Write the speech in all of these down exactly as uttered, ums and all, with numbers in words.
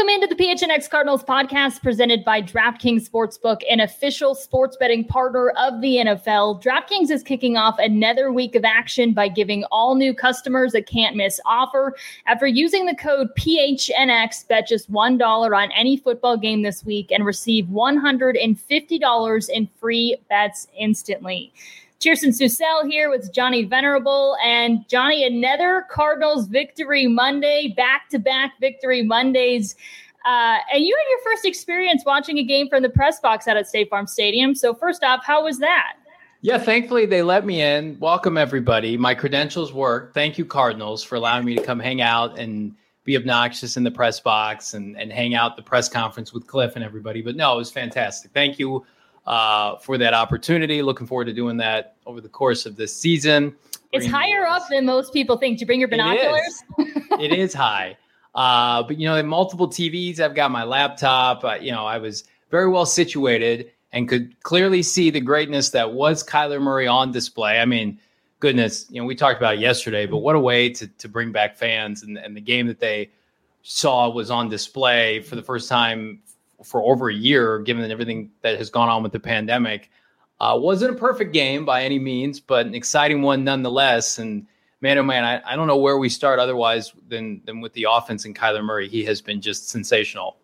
Welcome into the P H N X Cardinals podcast presented by DraftKings Sportsbook, an official sports betting partner of the N F L. DraftKings is kicking off another week of action by giving all new customers a can't-miss offer. After using the code P H N X, bet just one dollar on any football game this week and receive one hundred fifty dollars in free bets instantly. Cheerson Susel here with Johnny Venerable. And Johnny, another Cardinals Victory Monday, back-to-back Victory Mondays. Uh, and you had your first experience watching a game from the press box out at State Farm Stadium. So first off, how was that? Yeah, thankfully they let me in. Welcome, everybody. My credentials work. Thank you, Cardinals, for allowing me to come hang out and be obnoxious in the press box and, and hang out at the press conference with Cliff and everybody. But no, it was fantastic. Thank you uh, for that opportunity. Looking forward to doing that over the course of this season. It's higher up than most people think. Did you bring your binoculars? It is, it is high. Uh, but, you know, multiple T Vs. I've got my laptop. Uh, you know, I was very well situated and could clearly see the greatness that was Kyler Murray on display. I mean, goodness, you know, we talked about it yesterday, but what a way to to bring back fans. And, and the game that they saw was on display for the first time for over a year, given everything that has gone on with the pandemic. Uh, wasn't a perfect game by any means, but an exciting one nonetheless. And man, oh man, I, I don't know where we start otherwise than, than with the offense and Kyler Murray. He has been just sensational.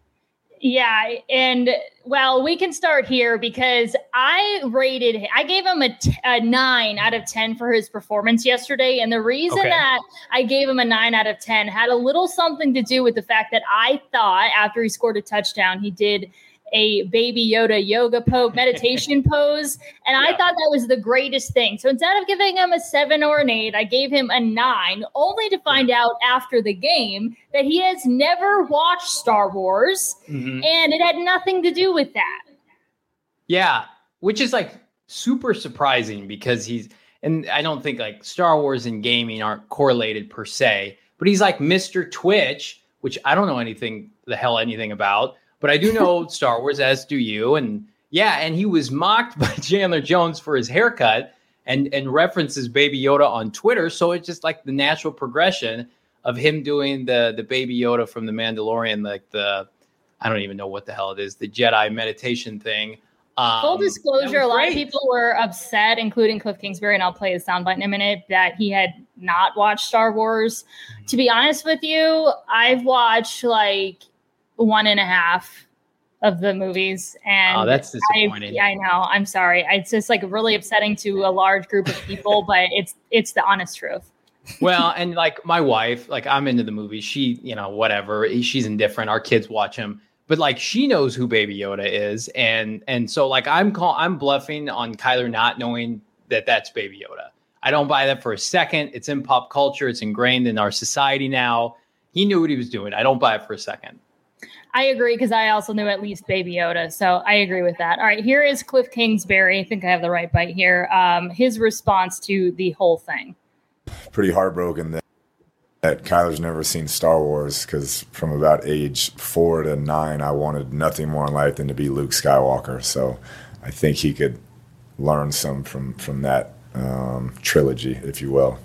Yeah, and well, we can start here because I rated, I gave him a, t- a nine out of ten for his performance yesterday. And the reason okay. that I gave him a nine out of ten had a little something to do with the fact that I thought after he scored a touchdown, he did a Baby Yoda yoga pose, meditation pose. And yeah. I thought that was the greatest thing. So instead of giving him a seven or an eight, I gave him a nine, only to find yeah. out after the game that he has never watched Star Wars. Mm-hmm. And it had nothing to do with that. Yeah, which is like super surprising because he's, and I don't think like Star Wars and gaming aren't correlated per se, but he's like Mister Twitch, which I don't know anything, the hell anything about. But I do know Star Wars, as do you. And yeah, and he was mocked by Chandler Jones for his haircut and, and references Baby Yoda on Twitter. So it's just like the natural progression of him doing the, the Baby Yoda from The Mandalorian, like the, I don't even know what the hell it is, the Jedi meditation thing. Um, Full disclosure, a lot great. of people were upset, including Cliff Kingsbury, and I'll play a soundbite in a minute, that he had not watched Star Wars. Mm-hmm. To be honest with you, I've watched like one and a half of the movies. And oh, that's disappointing. I, I know. I'm sorry. It's just like really upsetting to a large group of people, but it's, it's the honest truth. Well, and like my wife, like I'm into the movie. She, you know, whatever, she's indifferent. Our kids watch him, but like she knows who Baby Yoda is. And, and so like I'm call, I'm bluffing on Kyler not knowing that that's Baby Yoda. I don't buy that for a second. It's in pop culture. It's ingrained in our society now. He knew what he was doing. I don't buy it for a second. I agree because I also knew at least Baby Yoda. So I agree with that. All right, here is Cliff Kingsbury. I think I have the right bite here. Um, his response to the whole thing. Pretty heartbroken that, that Kyler's never seen Star Wars because from about age four to nine, I wanted nothing more in life than to be Luke Skywalker. So I think he could learn some from, from that um, trilogy, if you will.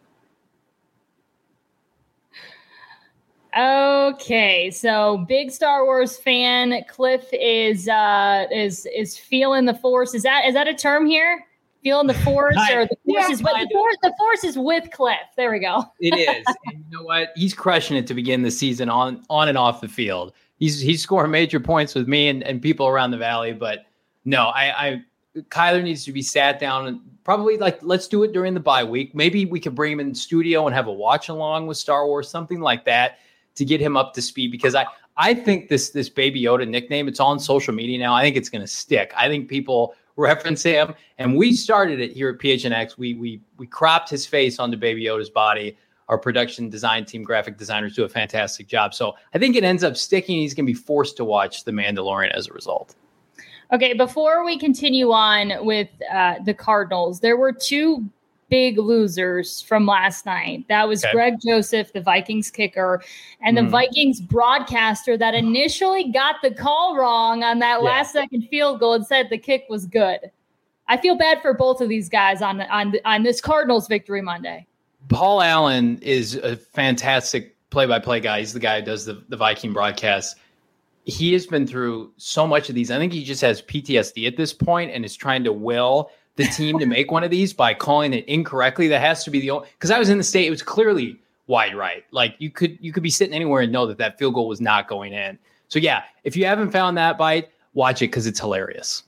Okay, so big Star Wars fan. Cliff is uh, is is feeling the force. Is that is that a term here? Feeling the force, or the force yeah, is with the force? The force is with Cliff. There we go. It is. And you know what? He's crushing it to begin the season on on and off the field. He's he's scoring major points with me and, and people around the valley. But no, I, I Kyler needs to be sat down and probably like let's do it during the bye week. Maybe we could bring him in the studio and have a watch along with Star Wars, something like that, to get him up to speed, because I, I think this this Baby Yoda nickname, it's on social media now. I think it's going to stick. I think people reference him, and we started it here at P H N X. We we we cropped his face onto Baby Yoda's body. Our production design team, graphic designers do a fantastic job. So I think it ends up sticking. He's going to be forced to watch The Mandalorian as a result. Okay, before we continue on with uh, the Cardinals, there were two big losers from last night. That was okay. Greg Joseph, the Vikings kicker, and mm. the Vikings broadcaster that initially got the call wrong on that yeah. last second field goal and said the kick was good. I feel bad for both of these guys on on on this Cardinals victory Monday. Paul Allen is a fantastic play-by-play guy. He's the guy who does the, the Viking broadcast. He has been through so much of these. I think he just has P T S D at this point and is trying to will the team to make one of these by calling it incorrectly. That has to be the only, because I was in the state, it was clearly wide right. Like you could you could be sitting anywhere and know that that field goal was not going in. So yeah, if you haven't found that bite, watch it because it's hilarious.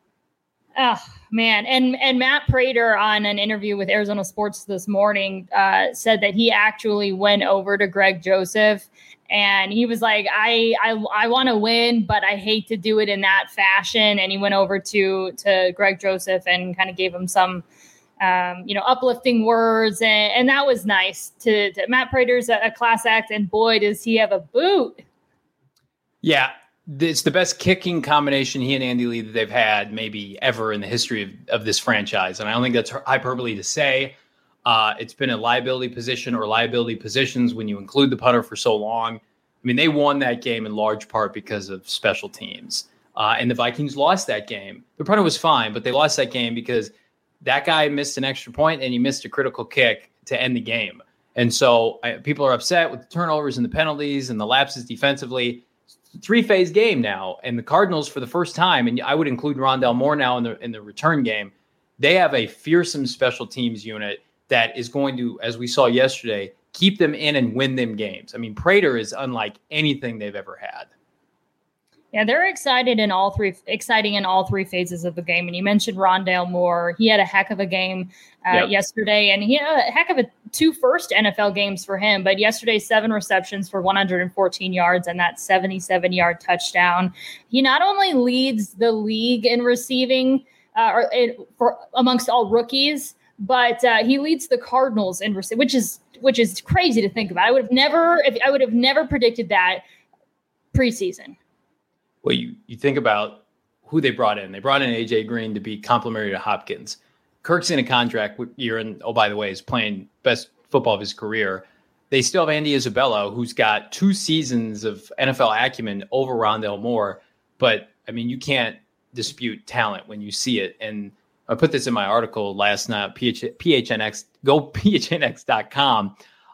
Oh man, and and Matt Prater on an interview with Arizona Sports this morning uh, said that he actually went over to Greg Joseph. And he was like, I I, I want to win, but I hate to do it in that fashion. And he went over to to Greg Joseph and kind of gave him some, um, you know, uplifting words. And, and that was nice. To, to Matt Prater's a, a class act. And boy, does he have a boot. Yeah, it's the best kicking combination he and Andy Lee that they've had maybe ever in the history of, of this franchise. And I don't think that's hyperbole to say. Uh, it's been a liability position or liability positions when you include the punter for so long. I mean, they won that game in large part because of special teams. Uh, and the Vikings lost that game. The punter was fine, but they lost that game because that guy missed an extra point and he missed a critical kick to end the game. And so uh, people are upset with the turnovers and the penalties and the lapses defensively. Three-phase game now. And the Cardinals, for the first time, and I would include Rondale Moore now in the in the return game, they have a fearsome special teams unit that is going to, as we saw yesterday, keep them in and win them games. I mean, Prater is unlike anything they've ever had. Yeah, they're excited in all three, exciting in all three phases of the game. And you mentioned Rondale Moore. He had a heck of a game uh, yep. yesterday, and he had a heck of a two first N F L games for him. But yesterday, seven receptions for one hundred fourteen yards and that seventy-seven yard touchdown. He not only leads the league in receiving uh, or in, for amongst all rookies, but uh, he leads the Cardinals in receiving, which is which is crazy to think about. I would have never, if I would have never predicted that preseason. Well, you, you think about who they brought in. They brought in A J Green to be complimentary to Hopkins. Kirk's in a contract year, and oh, by the way, is playing best football of his career. They still have Andy Isabella, who's got two seasons of N F L acumen over Rondale Moore. But, I mean, you can't dispute talent when you see it. And I put this in my article last night, P H N X, go P H N X dot com.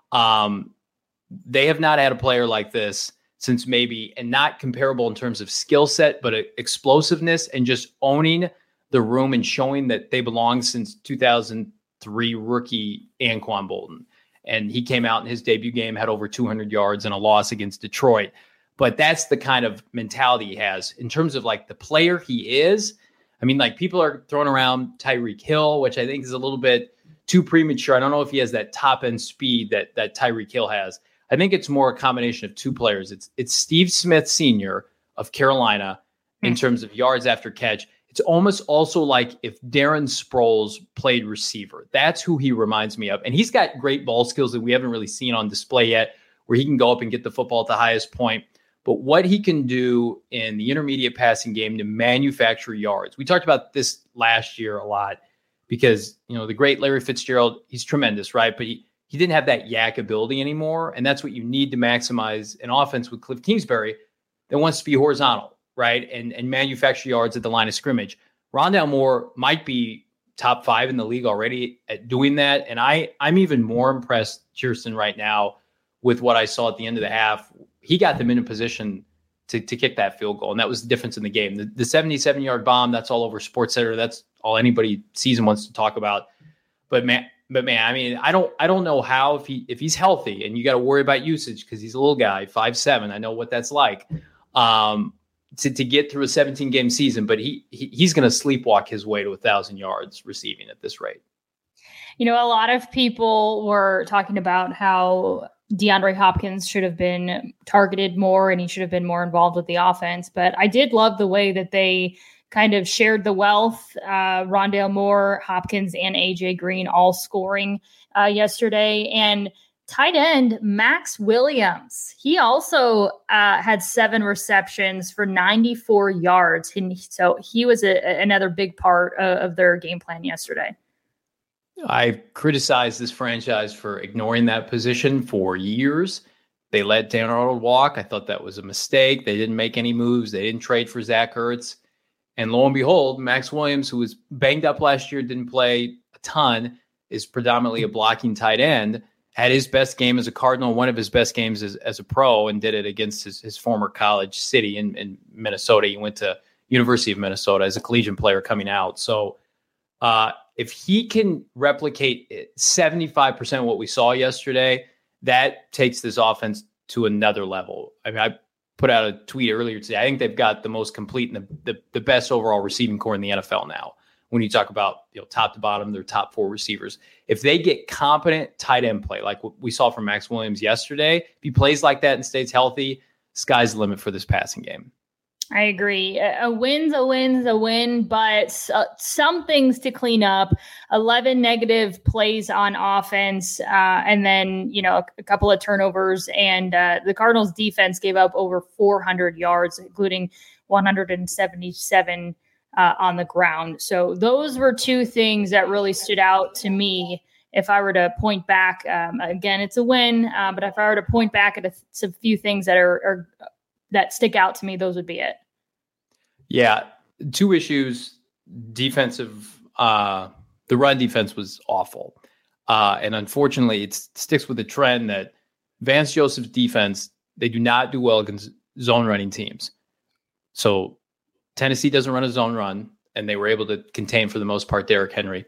Um, they have not had a player like this since maybe, and not comparable in terms of skill set, but explosiveness and just owning the room and showing that they belong since two thousand three rookie Anquan Bolden. And he came out in his debut game, had over two hundred yards and a loss against Detroit. But that's the kind of mentality he has in terms of like the player he is. I mean, like people are throwing around Tyreek Hill, which I think is a little bit too premature. I don't know if he has that top end speed that that Tyreek Hill has. I think it's more a combination of two players. It's it's Steve Smith Senior of Carolina in mm-hmm. terms of yards after catch. It's almost also like if Darren Sproles played receiver. That's who he reminds me of. And he's got great ball skills that we haven't really seen on display yet, where he can go up and get the football at the highest point. But what he can do in the intermediate passing game to manufacture yards. We talked about this last year a lot because, you know, the great Larry Fitzgerald, he's tremendous, right? But he, he didn't have that yak ability anymore. And that's what you need to maximize an offense with Cliff Kingsbury that wants to be horizontal, right? And, and manufacture yards at the line of scrimmage. Rondale Moore might be top five in the league already at doing that. And I, I'm even more impressed, Kirsten, right now with what I saw at the end of the half. He got them in a position to, to kick that field goal, and that was the difference in the game. The, the seventy-seven-yard bomb, that's all over SportsCenter. That's all anybody sees and wants to talk about. But man, but man, I mean, I don't, I don't know how if he if he's healthy, and you got to worry about usage because he's a little guy, five seven. I know what that's like um, to to get through a seventeen-game season. But he, he he's going to sleepwalk his way to a thousand yards receiving at this rate. You know, a lot of people were talking about how DeAndre Hopkins should have been targeted more and he should have been more involved with the offense. But I did love the way that they kind of shared the wealth. Uh, Rondale Moore, Hopkins, and A J Green all scoring uh, yesterday. And tight end Max Williams, he also uh, had seven receptions for ninety-four yards. And so he was a, another big part of, of their game plan yesterday. I've criticized this franchise for ignoring that position for years. They let Dan Arnold walk. I thought that was a mistake. They didn't make any moves. They didn't trade for Zach Ertz. And lo and behold, Max Williams, who was banged up last year, didn't play a ton, is predominantly a blocking tight end. had his best game as a Cardinal, one of his best games as, as a pro, and did it against his, his former college city in, in Minnesota. He went to University of Minnesota as a collegiate player coming out. So uh, if he can replicate seventy-five percent of what we saw yesterday, that takes this offense to another level. I mean, I put out a tweet earlier today. I think they've got the most complete and the, the, the best overall receiving core in the N F L now. When you talk about, you know, top to bottom, their top four receivers, if they get competent tight end play, like what we saw from Max Williams yesterday, if he plays like that and stays healthy, sky's the limit for this passing game. I agree. A win's a win's a win, but uh, some things to clean up. eleven negative plays on offense, uh, and then, you know, a, a couple of turnovers. And uh, the Cardinals defense gave up over four hundred yards, including one hundred seventy-seven uh, on the ground. So those were two things that really stood out to me. If I were to point back, um, again, it's a win, uh, but if I were to point back at a, a few things that are, are that stick out to me, those would be it. Yeah. Two issues. Defensive, uh, the run defense was awful. Uh, and unfortunately, it sticks with the trend that Vance Joseph's defense, they do not do well against zone running teams. So Tennessee doesn't run a zone run, and they were able to contain, for the most part, Derrick Henry.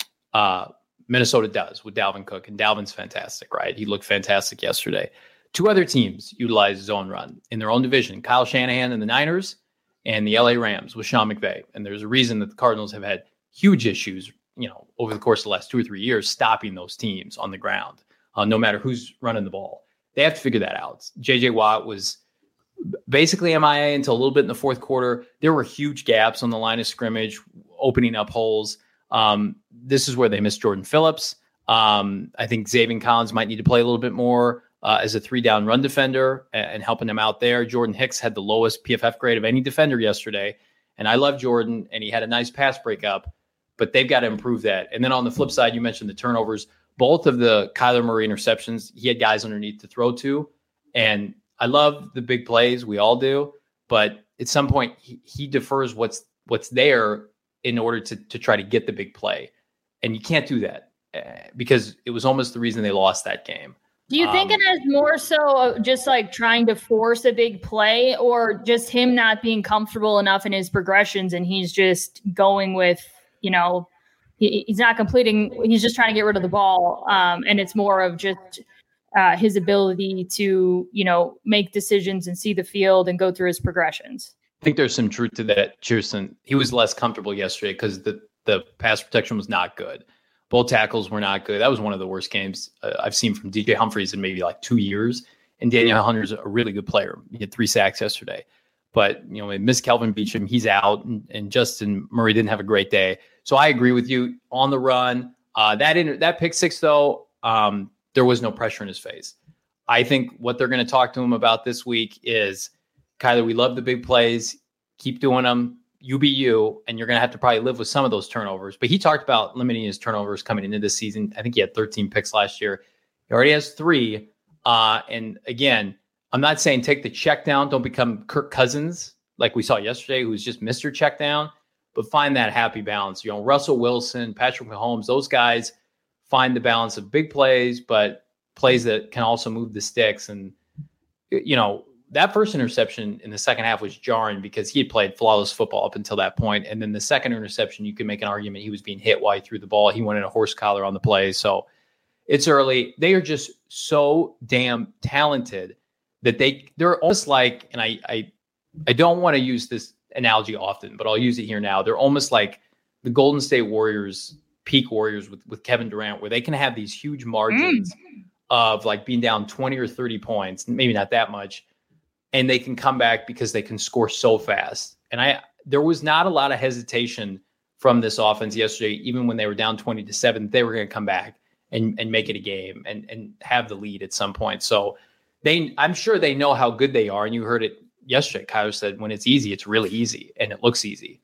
Uh, Minnesota does with Dalvin Cook, and Dalvin's fantastic, right? He looked fantastic yesterday. Two other teams utilize zone run in their own division, Kyle Shanahan and the Niners, and the L A Rams with Sean McVay. And there's a reason that the Cardinals have had huge issues, you know, over the course of the last two or three years, stopping those teams on the ground, uh, no matter who's running the ball. They have to figure that out. J J Watt was basically M I A until a little bit in the fourth quarter. There were huge gaps on the line of scrimmage, opening up holes. Um, this is where they missed Jordan Phillips. Um, I think Zaven Collins might need to play a little bit more uh, as a three-down run defender and, and helping them out there. Jordan Hicks had the lowest P F F grade of any defender yesterday, and I love Jordan, and he had a nice pass breakup, but they've got to improve that. And then on the flip side, you mentioned the turnovers. Both of the Kyler Murray interceptions, he had guys underneath to throw to, and I love the big plays. We all do, but at some point, he, he defers what's what's there in order to to try to get the big play. And you can't do that uh, because it was almost the reason they lost that game. Do you think um, it is more so just like trying to force a big play, or just him not being comfortable enough in his progressions and he's just going with, you know, he, he's not completing, he's just trying to get rid of the ball. Um, and it's more of just uh, his ability to, you know, make decisions and see the field and go through his progressions. I think there's some truth to that, Cheerson. He was less comfortable yesterday because the, the pass protection was not good. Both tackles were not good. That was one of the worst games uh, I've seen from D J Humphries in maybe like two years. And Daniel Hunter's a really good player. He had three sacks yesterday. But, you know, we missed Kelvin Beachum. He's out. And, and Justin Murray didn't have a great day. So I agree with you on the run. Uh, that inter- that pick six, though, um, there was no pressure in his face. I think what they're going to talk to him about this week is, Kyler, we love the big plays. Keep doing them. You be you, and you're going to have to probably live with some of those turnovers. But he talked about limiting his turnovers coming into this season. I think he had thirteen picks last year. He already has three. Uh, and again, I'm not saying take the check down. Don't become Kirk Cousins like we saw yesterday, who's just Mister Check Down, but find that happy balance. You know, Russell Wilson, Patrick Mahomes, those guys find the balance of big plays, but plays that can also move the sticks. And, you know, that first interception in the second half was jarring because he had played flawless football up until that point. And then the second interception, you can make an argument he was being hit while he threw the ball. He wanted a horse collar on the play. So it's early. They are just so damn talented that they, they're almost like, and I, I, I don't want to use this analogy often, but I'll use it here now. They're almost like the Golden State Warriors, peak Warriors with, with Kevin Durant, where they can have these huge margins mm. of like being down twenty or thirty points, maybe not that much. And they can come back because they can score so fast. And I, there was not a lot of hesitation from this offense yesterday, even when they were down twenty to seven, they were going to come back and, and make it a game and, and have the lead at some point. So they, I'm sure they know how good they are. And you heard it yesterday. Kyler said, when it's easy, it's really easy, and it looks easy.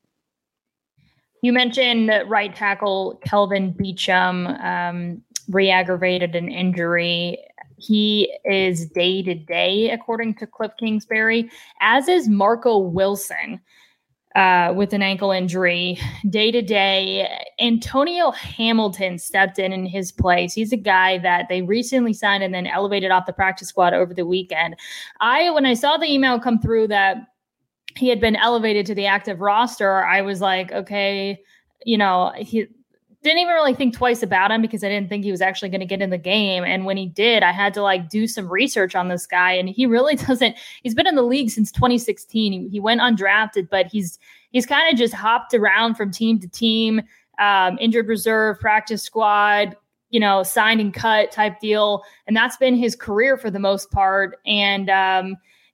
You mentioned right tackle Kelvin Beachum um, re-aggravated an injury. He is day to day, according to Cliff Kingsbury, as is Marco Wilson. uh, with an ankle injury. Day to day, Antonio Hamilton stepped in in his place. He's a guy that they recently signed and then elevated off the practice squad over the weekend. I, when I saw the email come through that he had been elevated to the active roster, I was like, okay, you know, he didn't even really think twice about him because I didn't think he was actually going to get in the game. And when he did, I had to like do some research on this guy. And he really doesn't, he's been in the league since twenty sixteen. He, he went undrafted, but he's, he's kind of just hopped around from team to team, um, injured reserve, practice squad, you know, signed and cut type deal. And that's been his career for the most part. And, um,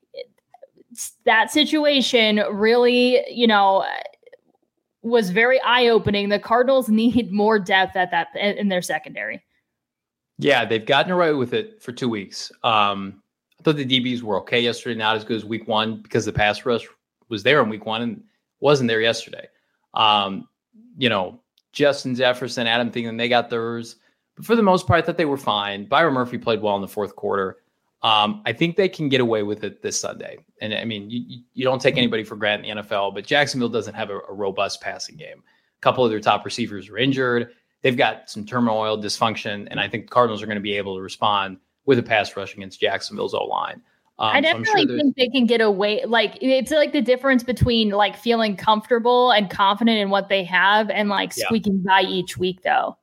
that situation really, you know, was very eye-opening. The Cardinals need more depth at that in their secondary. Yeah, they've gotten away with it for two weeks. Um, I thought the D Bs were okay yesterday, not as good as week one because the pass rush was there in week one and wasn't there yesterday. Um, you know, Justin Jefferson, Adam Thielen, they got theirs. But for the most part, I thought they were fine. Byron Murphy played well in the fourth quarter. Um, I think they can get away with it this Sunday. And I mean, you, you don't take anybody for granted in the N F L, but Jacksonville doesn't have a, a robust passing game. A couple of their top receivers are injured. They've got some turmoil, dysfunction, and I think the Cardinals are going to be able to respond with a pass rush against Jacksonville's O-line. Um, I definitely so sure think they can get away. Like, it's like the difference between like feeling comfortable and confident in what they have and like yeah. squeaking by each week, though.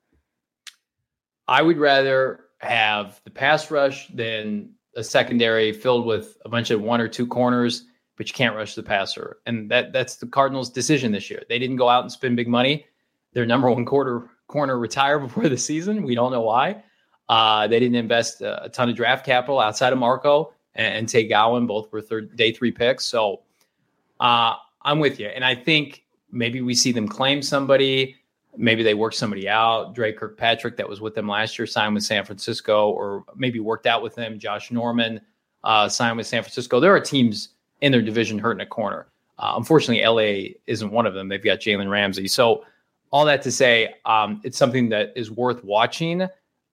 I would rather have the pass rush than a secondary filled with a bunch of one or two corners, but you can't rush the passer. And that that's the Cardinals' decision this year. They didn't go out and spend big money. Their number one quarter corner retired before the season. We don't know why. Uh, they didn't invest a, a ton of draft capital outside of Marco and, and Tay Gowan. Both were third, day three picks. So uh, I'm with you. And I think maybe we see them claim somebody. Maybe they work somebody out. Dre Kirkpatrick, that was with them last year, signed with San Francisco, or maybe worked out with them. Josh Norman uh, signed with San Francisco. There are teams in their division hurting a corner. Uh, unfortunately, L A isn't one of them. They've got Jalen Ramsey. So all that to say, um, it's something that is worth watching.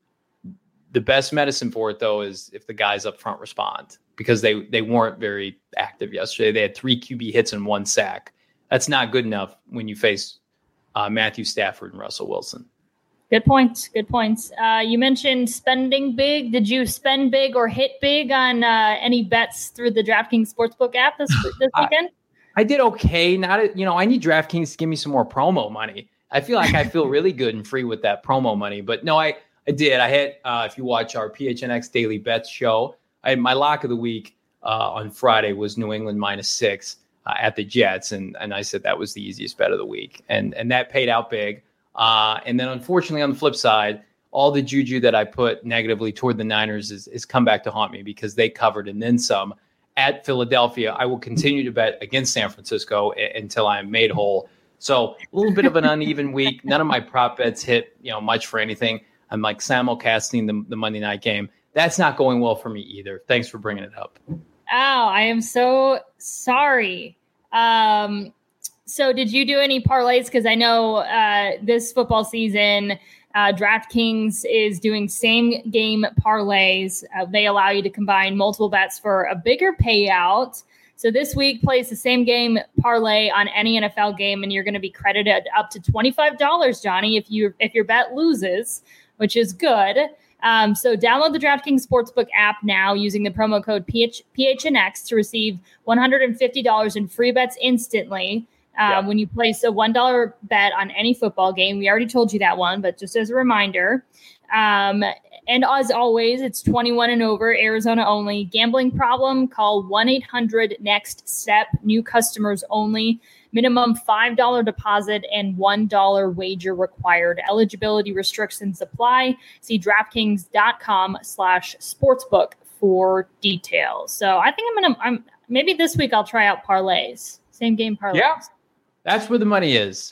The best medicine for it, though, is if the guys up front respond, because they, they weren't very active yesterday. They had three Q B hits and one sack. That's not good enough when you face Uh, Matthew Stafford and Russell Wilson. Good points. Good points. Uh, you mentioned spending big. Did you spend big or hit big on uh, any bets through the DraftKings Sportsbook app this this weekend? I, I did okay. Not, you know, I need DraftKings to give me some more promo money. I feel like I feel really good and free with that promo money. But no, I, I did. I hit. Uh, if you watch our P H N X Daily Bets show, I had my lock of the week uh, on Friday was New England minus six. Uh, at the Jets, and and I said that was the easiest bet of the week, and and that paid out big. Uh, and then unfortunately, on the flip side, all the juju that I put negatively toward the Niners is is come back to haunt me because they covered and then some at Philadelphia. I will continue to bet against San Francisco a- until I am made whole. So a little bit of an uneven week. None of my prop bets hit, you know, much for anything. I'm like simulcasting the the Monday night game. That's not going well for me either. Thanks for bringing it up. Oh, I am so sorry. Um, so did you do any parlays? Because I know uh, this football season, uh, DraftKings is doing same game parlays. Uh, they allow you to combine multiple bets for a bigger payout. So this week, place the same game parlay on any N F L game, and you're going to be credited up to twenty-five dollars, Johnny, if you if your bet loses, which is good. Um, so download the DraftKings Sportsbook app now using the promo code P H- P H N X to receive one hundred fifty dollars in free bets instantly um, yeah. when you place a one dollar bet on any football game. We already told you that one, but just as a reminder. Um, and as always, it's twenty-one and over, Arizona only. Gambling problem? Call one eight hundred next step. New customers only. Minimum five dollars deposit and one dollar wager required. Eligibility restrictions apply. See DraftKings.com slash sportsbook for details. So I think I'm going to, I'm maybe this week I'll try out parlays. Same game parlays. Yeah, that's where the money is.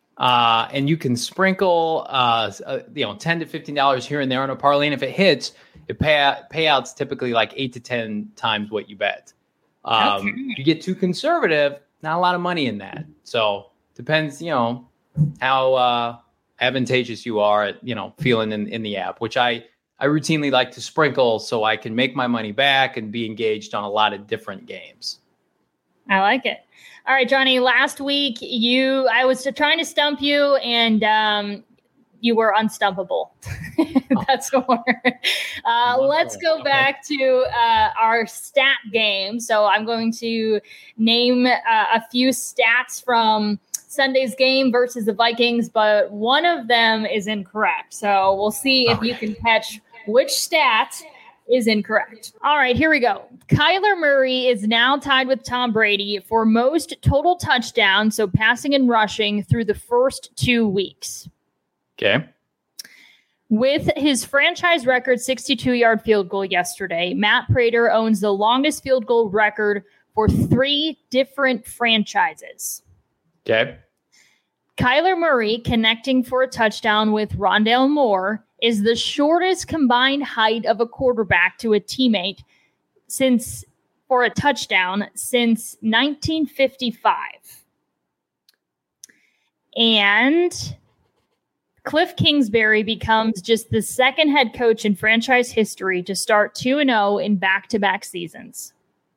Uh, and you can sprinkle, uh, uh, you know, ten to fifteen dollars here and there on a parlay. And if it hits, it pay, payouts typically like eight to ten times what you bet. Um, okay. If you get too conservative, not a lot of money in that. So depends, you know, how uh, advantageous you are at, you know, feeling in, in the app, which I, I routinely like to sprinkle so I can make my money back and be engaged on a lot of different games. I like it. All right, Johnny, last week you I was trying to stump you and um, you were unstumpable. That's the word. Uh, let's go back to uh, our stat game. So I'm going to name uh, a few stats from Sunday's game versus the Vikings, but one of them is incorrect. So we'll see if you can catch which stat is incorrect. All right, here we go. Kyler Murray is now tied with Tom Brady for most total touchdowns, so passing and rushing, through the first two weeks. Okay. With his franchise record sixty-two-yard field goal yesterday, Matt Prater owns the longest field goal record for three different franchises. Okay. Kyler Murray connecting for a touchdown with Rondale Moore is the shortest combined height of a quarterback to a teammate since for a touchdown since nineteen fifty-five. And Cliff Kingsbury becomes just the second head coach in franchise history to start two and oh in back-to-back seasons.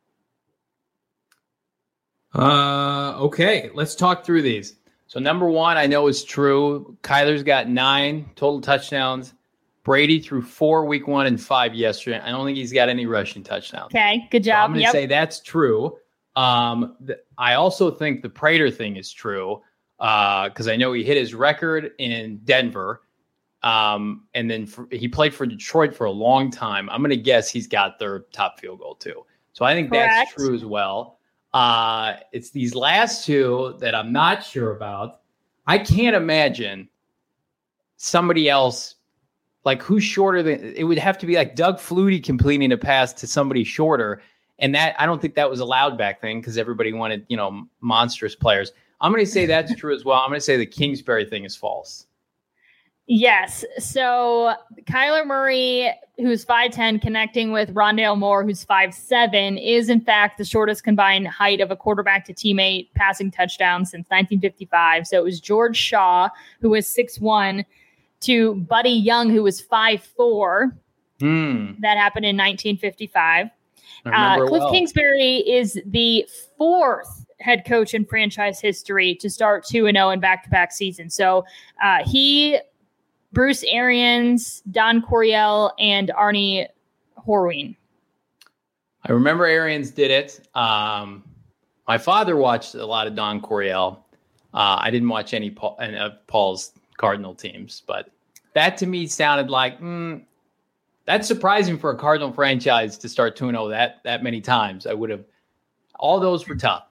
Uh, okay, let's talk through these. So number one, I know is true. Kyler's got nine total touchdowns. Brady threw four week one and five yesterday. I don't think he's got any rushing touchdowns. Okay, good job. So I'm going to yep. say that's true. Um, th- I also think the Prater thing is true because uh, I know he hit his record in Denver. Um, and then for, he played for Detroit for a long time. I'm going to guess he's got their top field goal too. So I think Correct. That's true as well. Uh, it's these last two that I'm not sure about. I can't imagine somebody else, like who's shorter than, it would have to be like Doug Flutie completing a pass to somebody shorter. And that, I don't think that was allowed back then because everybody wanted, you know, monstrous players. I'm going to say that's true as well. I'm going to say the Kingsbury thing is false. Yes. So Kyler Murray, who's five ten, connecting with Rondale Moore, who's five seven, is in fact the shortest combined height of a quarterback to teammate passing touchdown since nineteen fifty-five. So it was George Shaw, who was six one, to Buddy Young, who was five four. Hmm. That happened in nineteen fifty-five. Uh, Cliff well. Kingsbury is the fourth head coach in franchise history to start two and oh in back-to-back seasons. So uh, he... Bruce Arians, Don Coryell, and Arnie Horween. I remember Arians did it. Um, my father watched a lot of Don Coryell. Uh, I didn't watch any Paul, any of Paul's Cardinal teams, but that to me sounded like mm, that's surprising for a Cardinal franchise to start two and oh that that many times. I would have. All those were tough.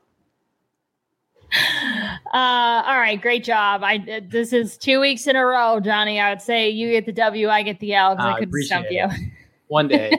Uh, all right, great job. I this is two weeks in a row, Johnny. I would say you get the W, I get the L because uh, I couldn't stump you. One day.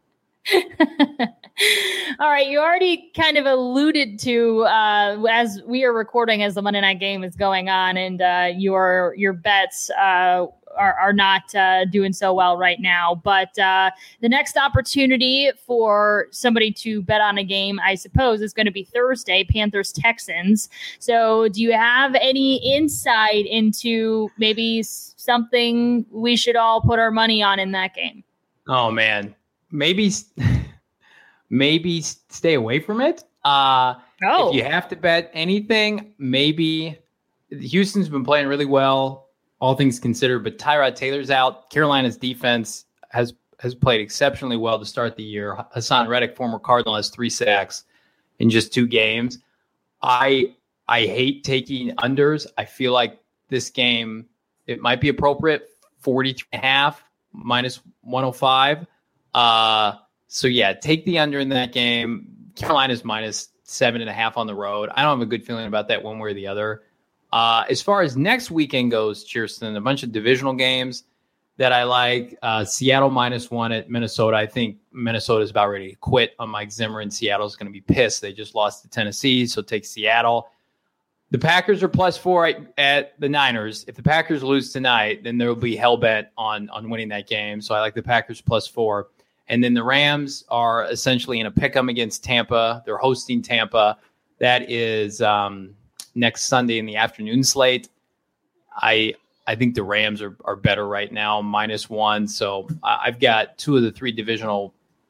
All right, you already kind of alluded to uh, as we are recording, as the Monday night game is going on, and uh, your your bets uh, are, are not uh, doing so well right now. But uh, the next opportunity for somebody to bet on a game, I suppose, is going to be Thursday, Panthers Texans. So, do you have any insight into maybe something we should all put our money on in that game? Oh man, maybe. Maybe stay away from it. Uh, oh. If you have to bet anything, maybe Houston's been playing really well, all things considered, but Tyrod Taylor's out. Carolina's defense has has played exceptionally well to start the year. Hassan Reddick, former Cardinal, has three sacks in just two games. I I hate taking unders. I feel like this game, it might be appropriate, forty-three and a half, minus one oh five. Uh So, yeah, take the under in that game. Carolina's minus seven and a half on the road. I don't have a good feeling about that one way or the other. Uh, as far as next weekend goes, Kirsten, a bunch of divisional games that I like. Uh, Seattle minus one at Minnesota. I think Minnesota is about ready to quit on Mike Zimmer, and Seattle's going to be pissed. They just lost to Tennessee, so take Seattle. The Packers are plus four at, at the Niners. If the Packers lose tonight, then there will be hell-bent on, on winning that game. So I like the Packers plus four. And then the Rams are essentially in a pick'em against Tampa. They're hosting Tampa. That is um, next Sunday in the afternoon slate. I I think the Rams are, are better right now, minus one. So I've got two of the three divisional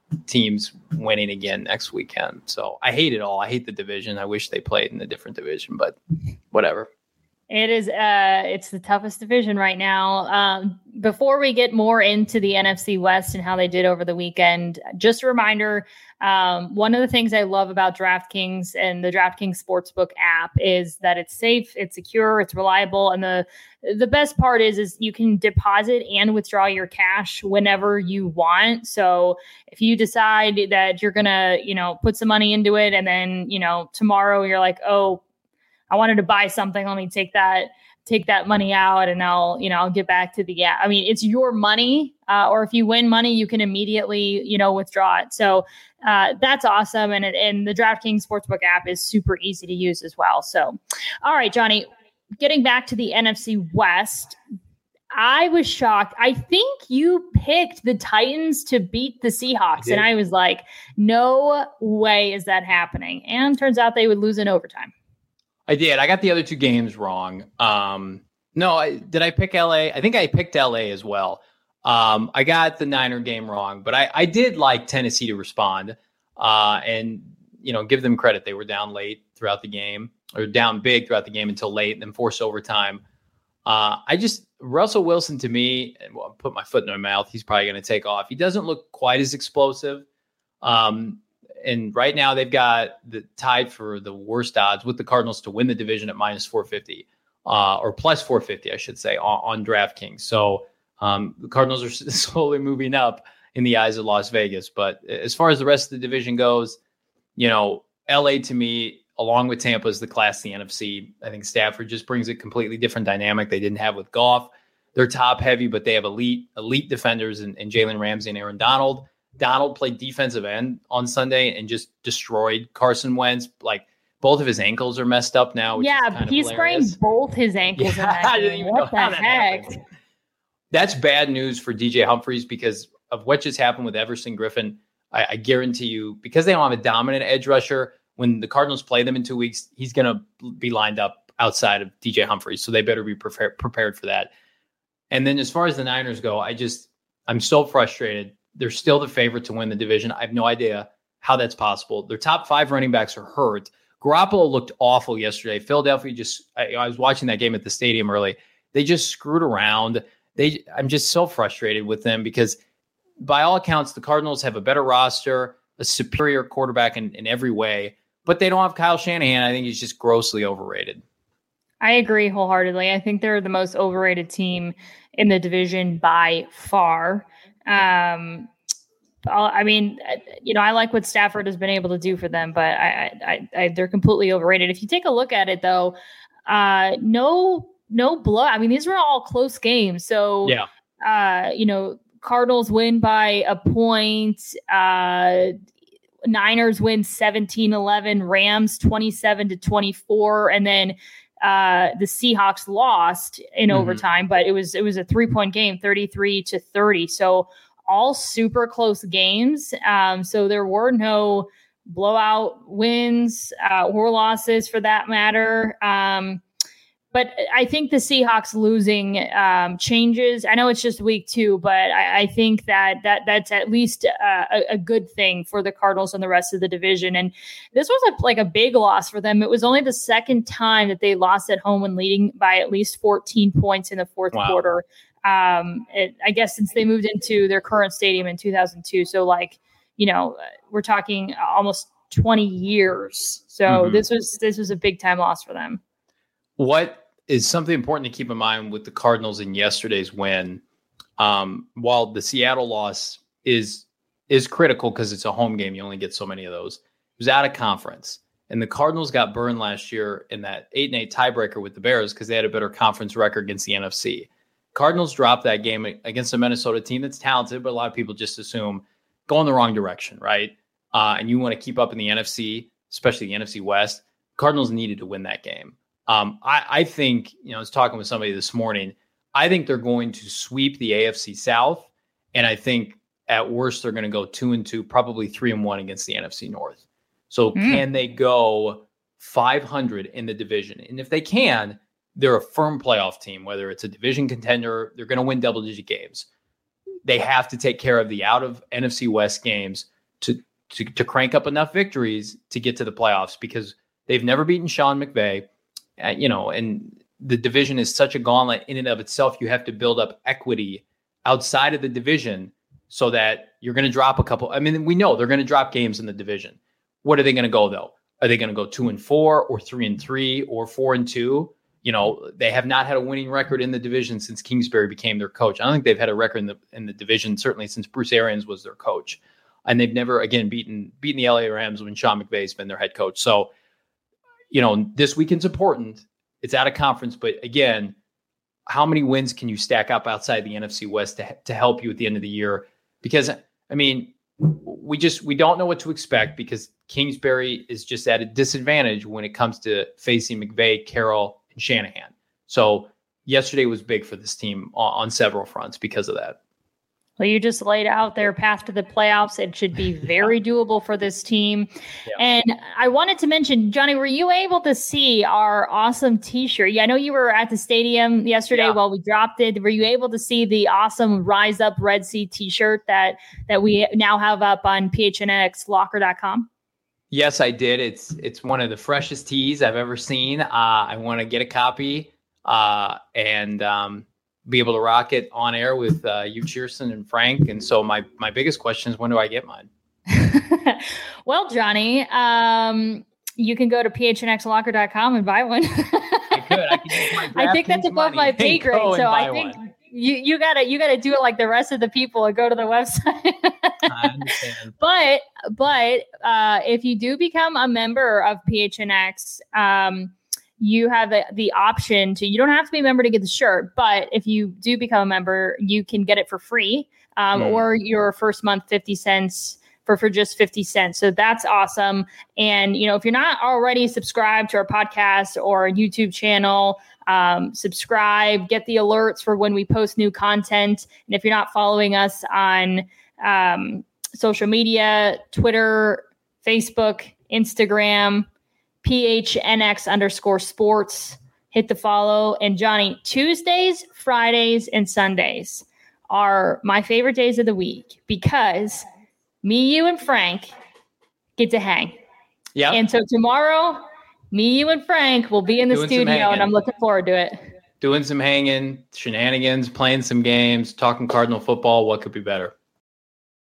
teams winning again next weekend. So I hate it all. I hate the division. I wish they played in a different division, but whatever. It is, uh, it's the toughest division right now. Um, before we get more into the N F C West and how they did over the weekend, just a reminder, um, one of the things I love about DraftKings and the DraftKings Sportsbook app is that it's safe, it's secure, it's reliable. And the, the best part is, is you can deposit and withdraw your cash whenever you want. So if you decide that you're going to, you know, put some money into it, and then, you know, tomorrow you're like, oh, I wanted to buy something. Let me take that, take that money out, and I'll, you know, I'll get back to the, yeah, I mean, it's your money. Uh, or if you win money, you can immediately, you know, withdraw it. So uh, that's awesome. And, and the DraftKings Sportsbook app is super easy to use as well. So, all right, Johnny, getting back to the N F C West, I was shocked. I think you picked the Titans to beat the Seahawks. I and I was like, no way is that happening. And turns out they would lose in overtime. I did. I got the other two games wrong. Um, no, I, did I pick L A? I think I picked L A as well. Um, I got the Niner game wrong, but I, I did like Tennessee to respond uh, and, you know, give them credit. They were down late throughout the game, or down big throughout the game until late, and then forced overtime. Uh, I just, Russell Wilson to me, and well, I'll put my foot in my mouth, he's probably going to take off. He doesn't look quite as explosive. Um, And right now they've got the tied for the worst odds with the Cardinals to win the division at minus four fifty, uh, or plus four fifty, I should say, on, on DraftKings. So um, the Cardinals are slowly moving up in the eyes of Las Vegas. But as far as the rest of the division goes, you know, L A to me, along with Tampa, is the class of the N F C. I think Stafford just brings a completely different dynamic they didn't have with Goff. They're top heavy, but they have elite, elite defenders in, in Jalen Ramsey and Aaron Donald. Donald played defensive end on Sunday and just destroyed Carson Wentz. Like, both of his ankles are messed up now. Which yeah, is kind he of sprained both his ankles. Yeah, in that I didn't game. even What know the how heck? that That's bad news for D J Humphries because of what just happened with Everson Griffin. I, I guarantee you, because they don't have a dominant edge rusher, when the Cardinals play them in two weeks, he's going to be lined up outside of D J Humphries. So they better be prepared prepared for that. And then as far as the Niners go, I just, I'm so frustrated. They're still the favorite to win the division. I have no idea how that's possible. Their top five running backs are hurt. Garoppolo looked awful yesterday. Philadelphia just, I, I was watching that game at the stadium early. They just screwed around. They, I'm just so frustrated with them because by all accounts, the Cardinals have a better roster, a superior quarterback in, in every way, but they don't have Kyle Shanahan. I think he's just grossly overrated. I agree wholeheartedly. I think they're the most overrated team in the division by far. Um, I mean, you know, I like what Stafford has been able to do for them, but I, I, I, they're completely overrated. If you take a look at it, though, uh, no, no blood. I mean, these were all close games. So, yeah, uh, you know, Cardinals win by a point. Uh, Niners win seventeen eleven. Rams twenty-seven to twenty-four, and then uh, the Seahawks lost in mm-hmm. overtime, but it was it was a three point game, thirty-three to thirty. So all super close games. Um, so there were no blowout wins uh, or losses for that matter. Um, but I think the Seahawks losing um, changes. I know it's just week two, but I, I think that that that's at least uh, a, a good thing for the Cardinals and the rest of the division. And this was a, like a big loss for them. It was only the second time that they lost at home when leading by at least fourteen points in the fourth wow. quarter. Um, it, I guess since they moved into their current stadium in two thousand two. So like, you know, we're talking almost twenty years. So mm-hmm. this was this was a big time loss for them. What is something important to keep in mind with the Cardinals in yesterday's win? Um, while the Seattle loss is is critical because it's a home game, you only get so many of those. It was out of conference, and the Cardinals got burned last year in that eight and eight tiebreaker with the Bears because they had a better conference record against the N F C. Cardinals dropped that game against a Minnesota team that's talented, but a lot of people just assume go in the wrong direction, right? Uh, and you want to keep up in the N F C, especially the N F C West. Cardinals needed to win that game. Um, I, I think, you know, I was talking with somebody this morning. I think they're going to sweep the A F C South, and I think at worst they're going to go two and two, probably three and one against the N F C North. So mm. can they go five hundred in the division? And if they can, they're a firm playoff team. Whether it's a division contender, they're going to win double-digit games. They have to take care of the out of N F C West games to, to, to crank up enough victories to get to the playoffs, because they've never beaten Sean McVay, uh, you know, and the division is such a gauntlet in and of itself. You have to build up equity outside of the division so that you're going to drop a couple. I mean, we know they're going to drop games in the division. What are they going to go though? Are they going to go two and four or three and three or four and two? You know, they have not had a winning record in the division since Kingsbury became their coach. I don't think they've had a record in the in the division, certainly since Bruce Arians was their coach. And they've never, again, beaten beaten the L A Rams when Sean McVay's been their head coach. So, you know, this weekend's important. It's out of conference. But again, how many wins can you stack up outside the N F C West to, to help you at the end of the year? Because, I mean, we just we don't know what to expect, because Kingsbury is just at a disadvantage when it comes to facing McVay, Carroll, and Shanahan. So yesterday was big for this team on, on several fronts because of that. Well, you just laid out their path to the playoffs. It should be very yeah. doable for this team. Yeah. And I wanted to mention, Johnny, were you able to see our awesome t-shirt? Yeah, I know you were at the stadium yesterday yeah. while we dropped it. Were you able to see the awesome Rise Up Red Sea t-shirt that, that we now have up on P H N X locker dot com? Yes, I did. It's it's one of the freshest tees I've ever seen. Uh, I want to get a copy uh, and um, be able to rock it on air with uh, you, Cheerson, and Frank. And so my my biggest question is, when do I get mine? Well, Johnny, um, you can go to P H N X locker dot com and buy one. I could. I could use my I think that's above my pay grade, so I think one. you you gotta you gotta do it like the rest of the people and go to the website. I understand. But but uh, if you do become a member of P H N X, um, you have the, the option to, you don't have to be a member to get the shirt, but if you do become a member, you can get it for free, um, mm. or your first month, fifty cents for, for just fifty cents. So that's awesome. And, you know, if you're not already subscribed to our podcast or YouTube channel, um, subscribe, get the alerts for when we post new content. And if you're not following us on um, social media, Twitter, Facebook, Instagram, P H N X underscore sports, hit the follow. And Johnny, Tuesdays, Fridays, and Sundays are my favorite days of the week, because me, you, and Frank get to hang. Yeah. And so tomorrow, me, you, and Frank will be in the Doing studio, and I'm looking forward to it. Doing some hanging, shenanigans, playing some games, talking Cardinal football. What could be better?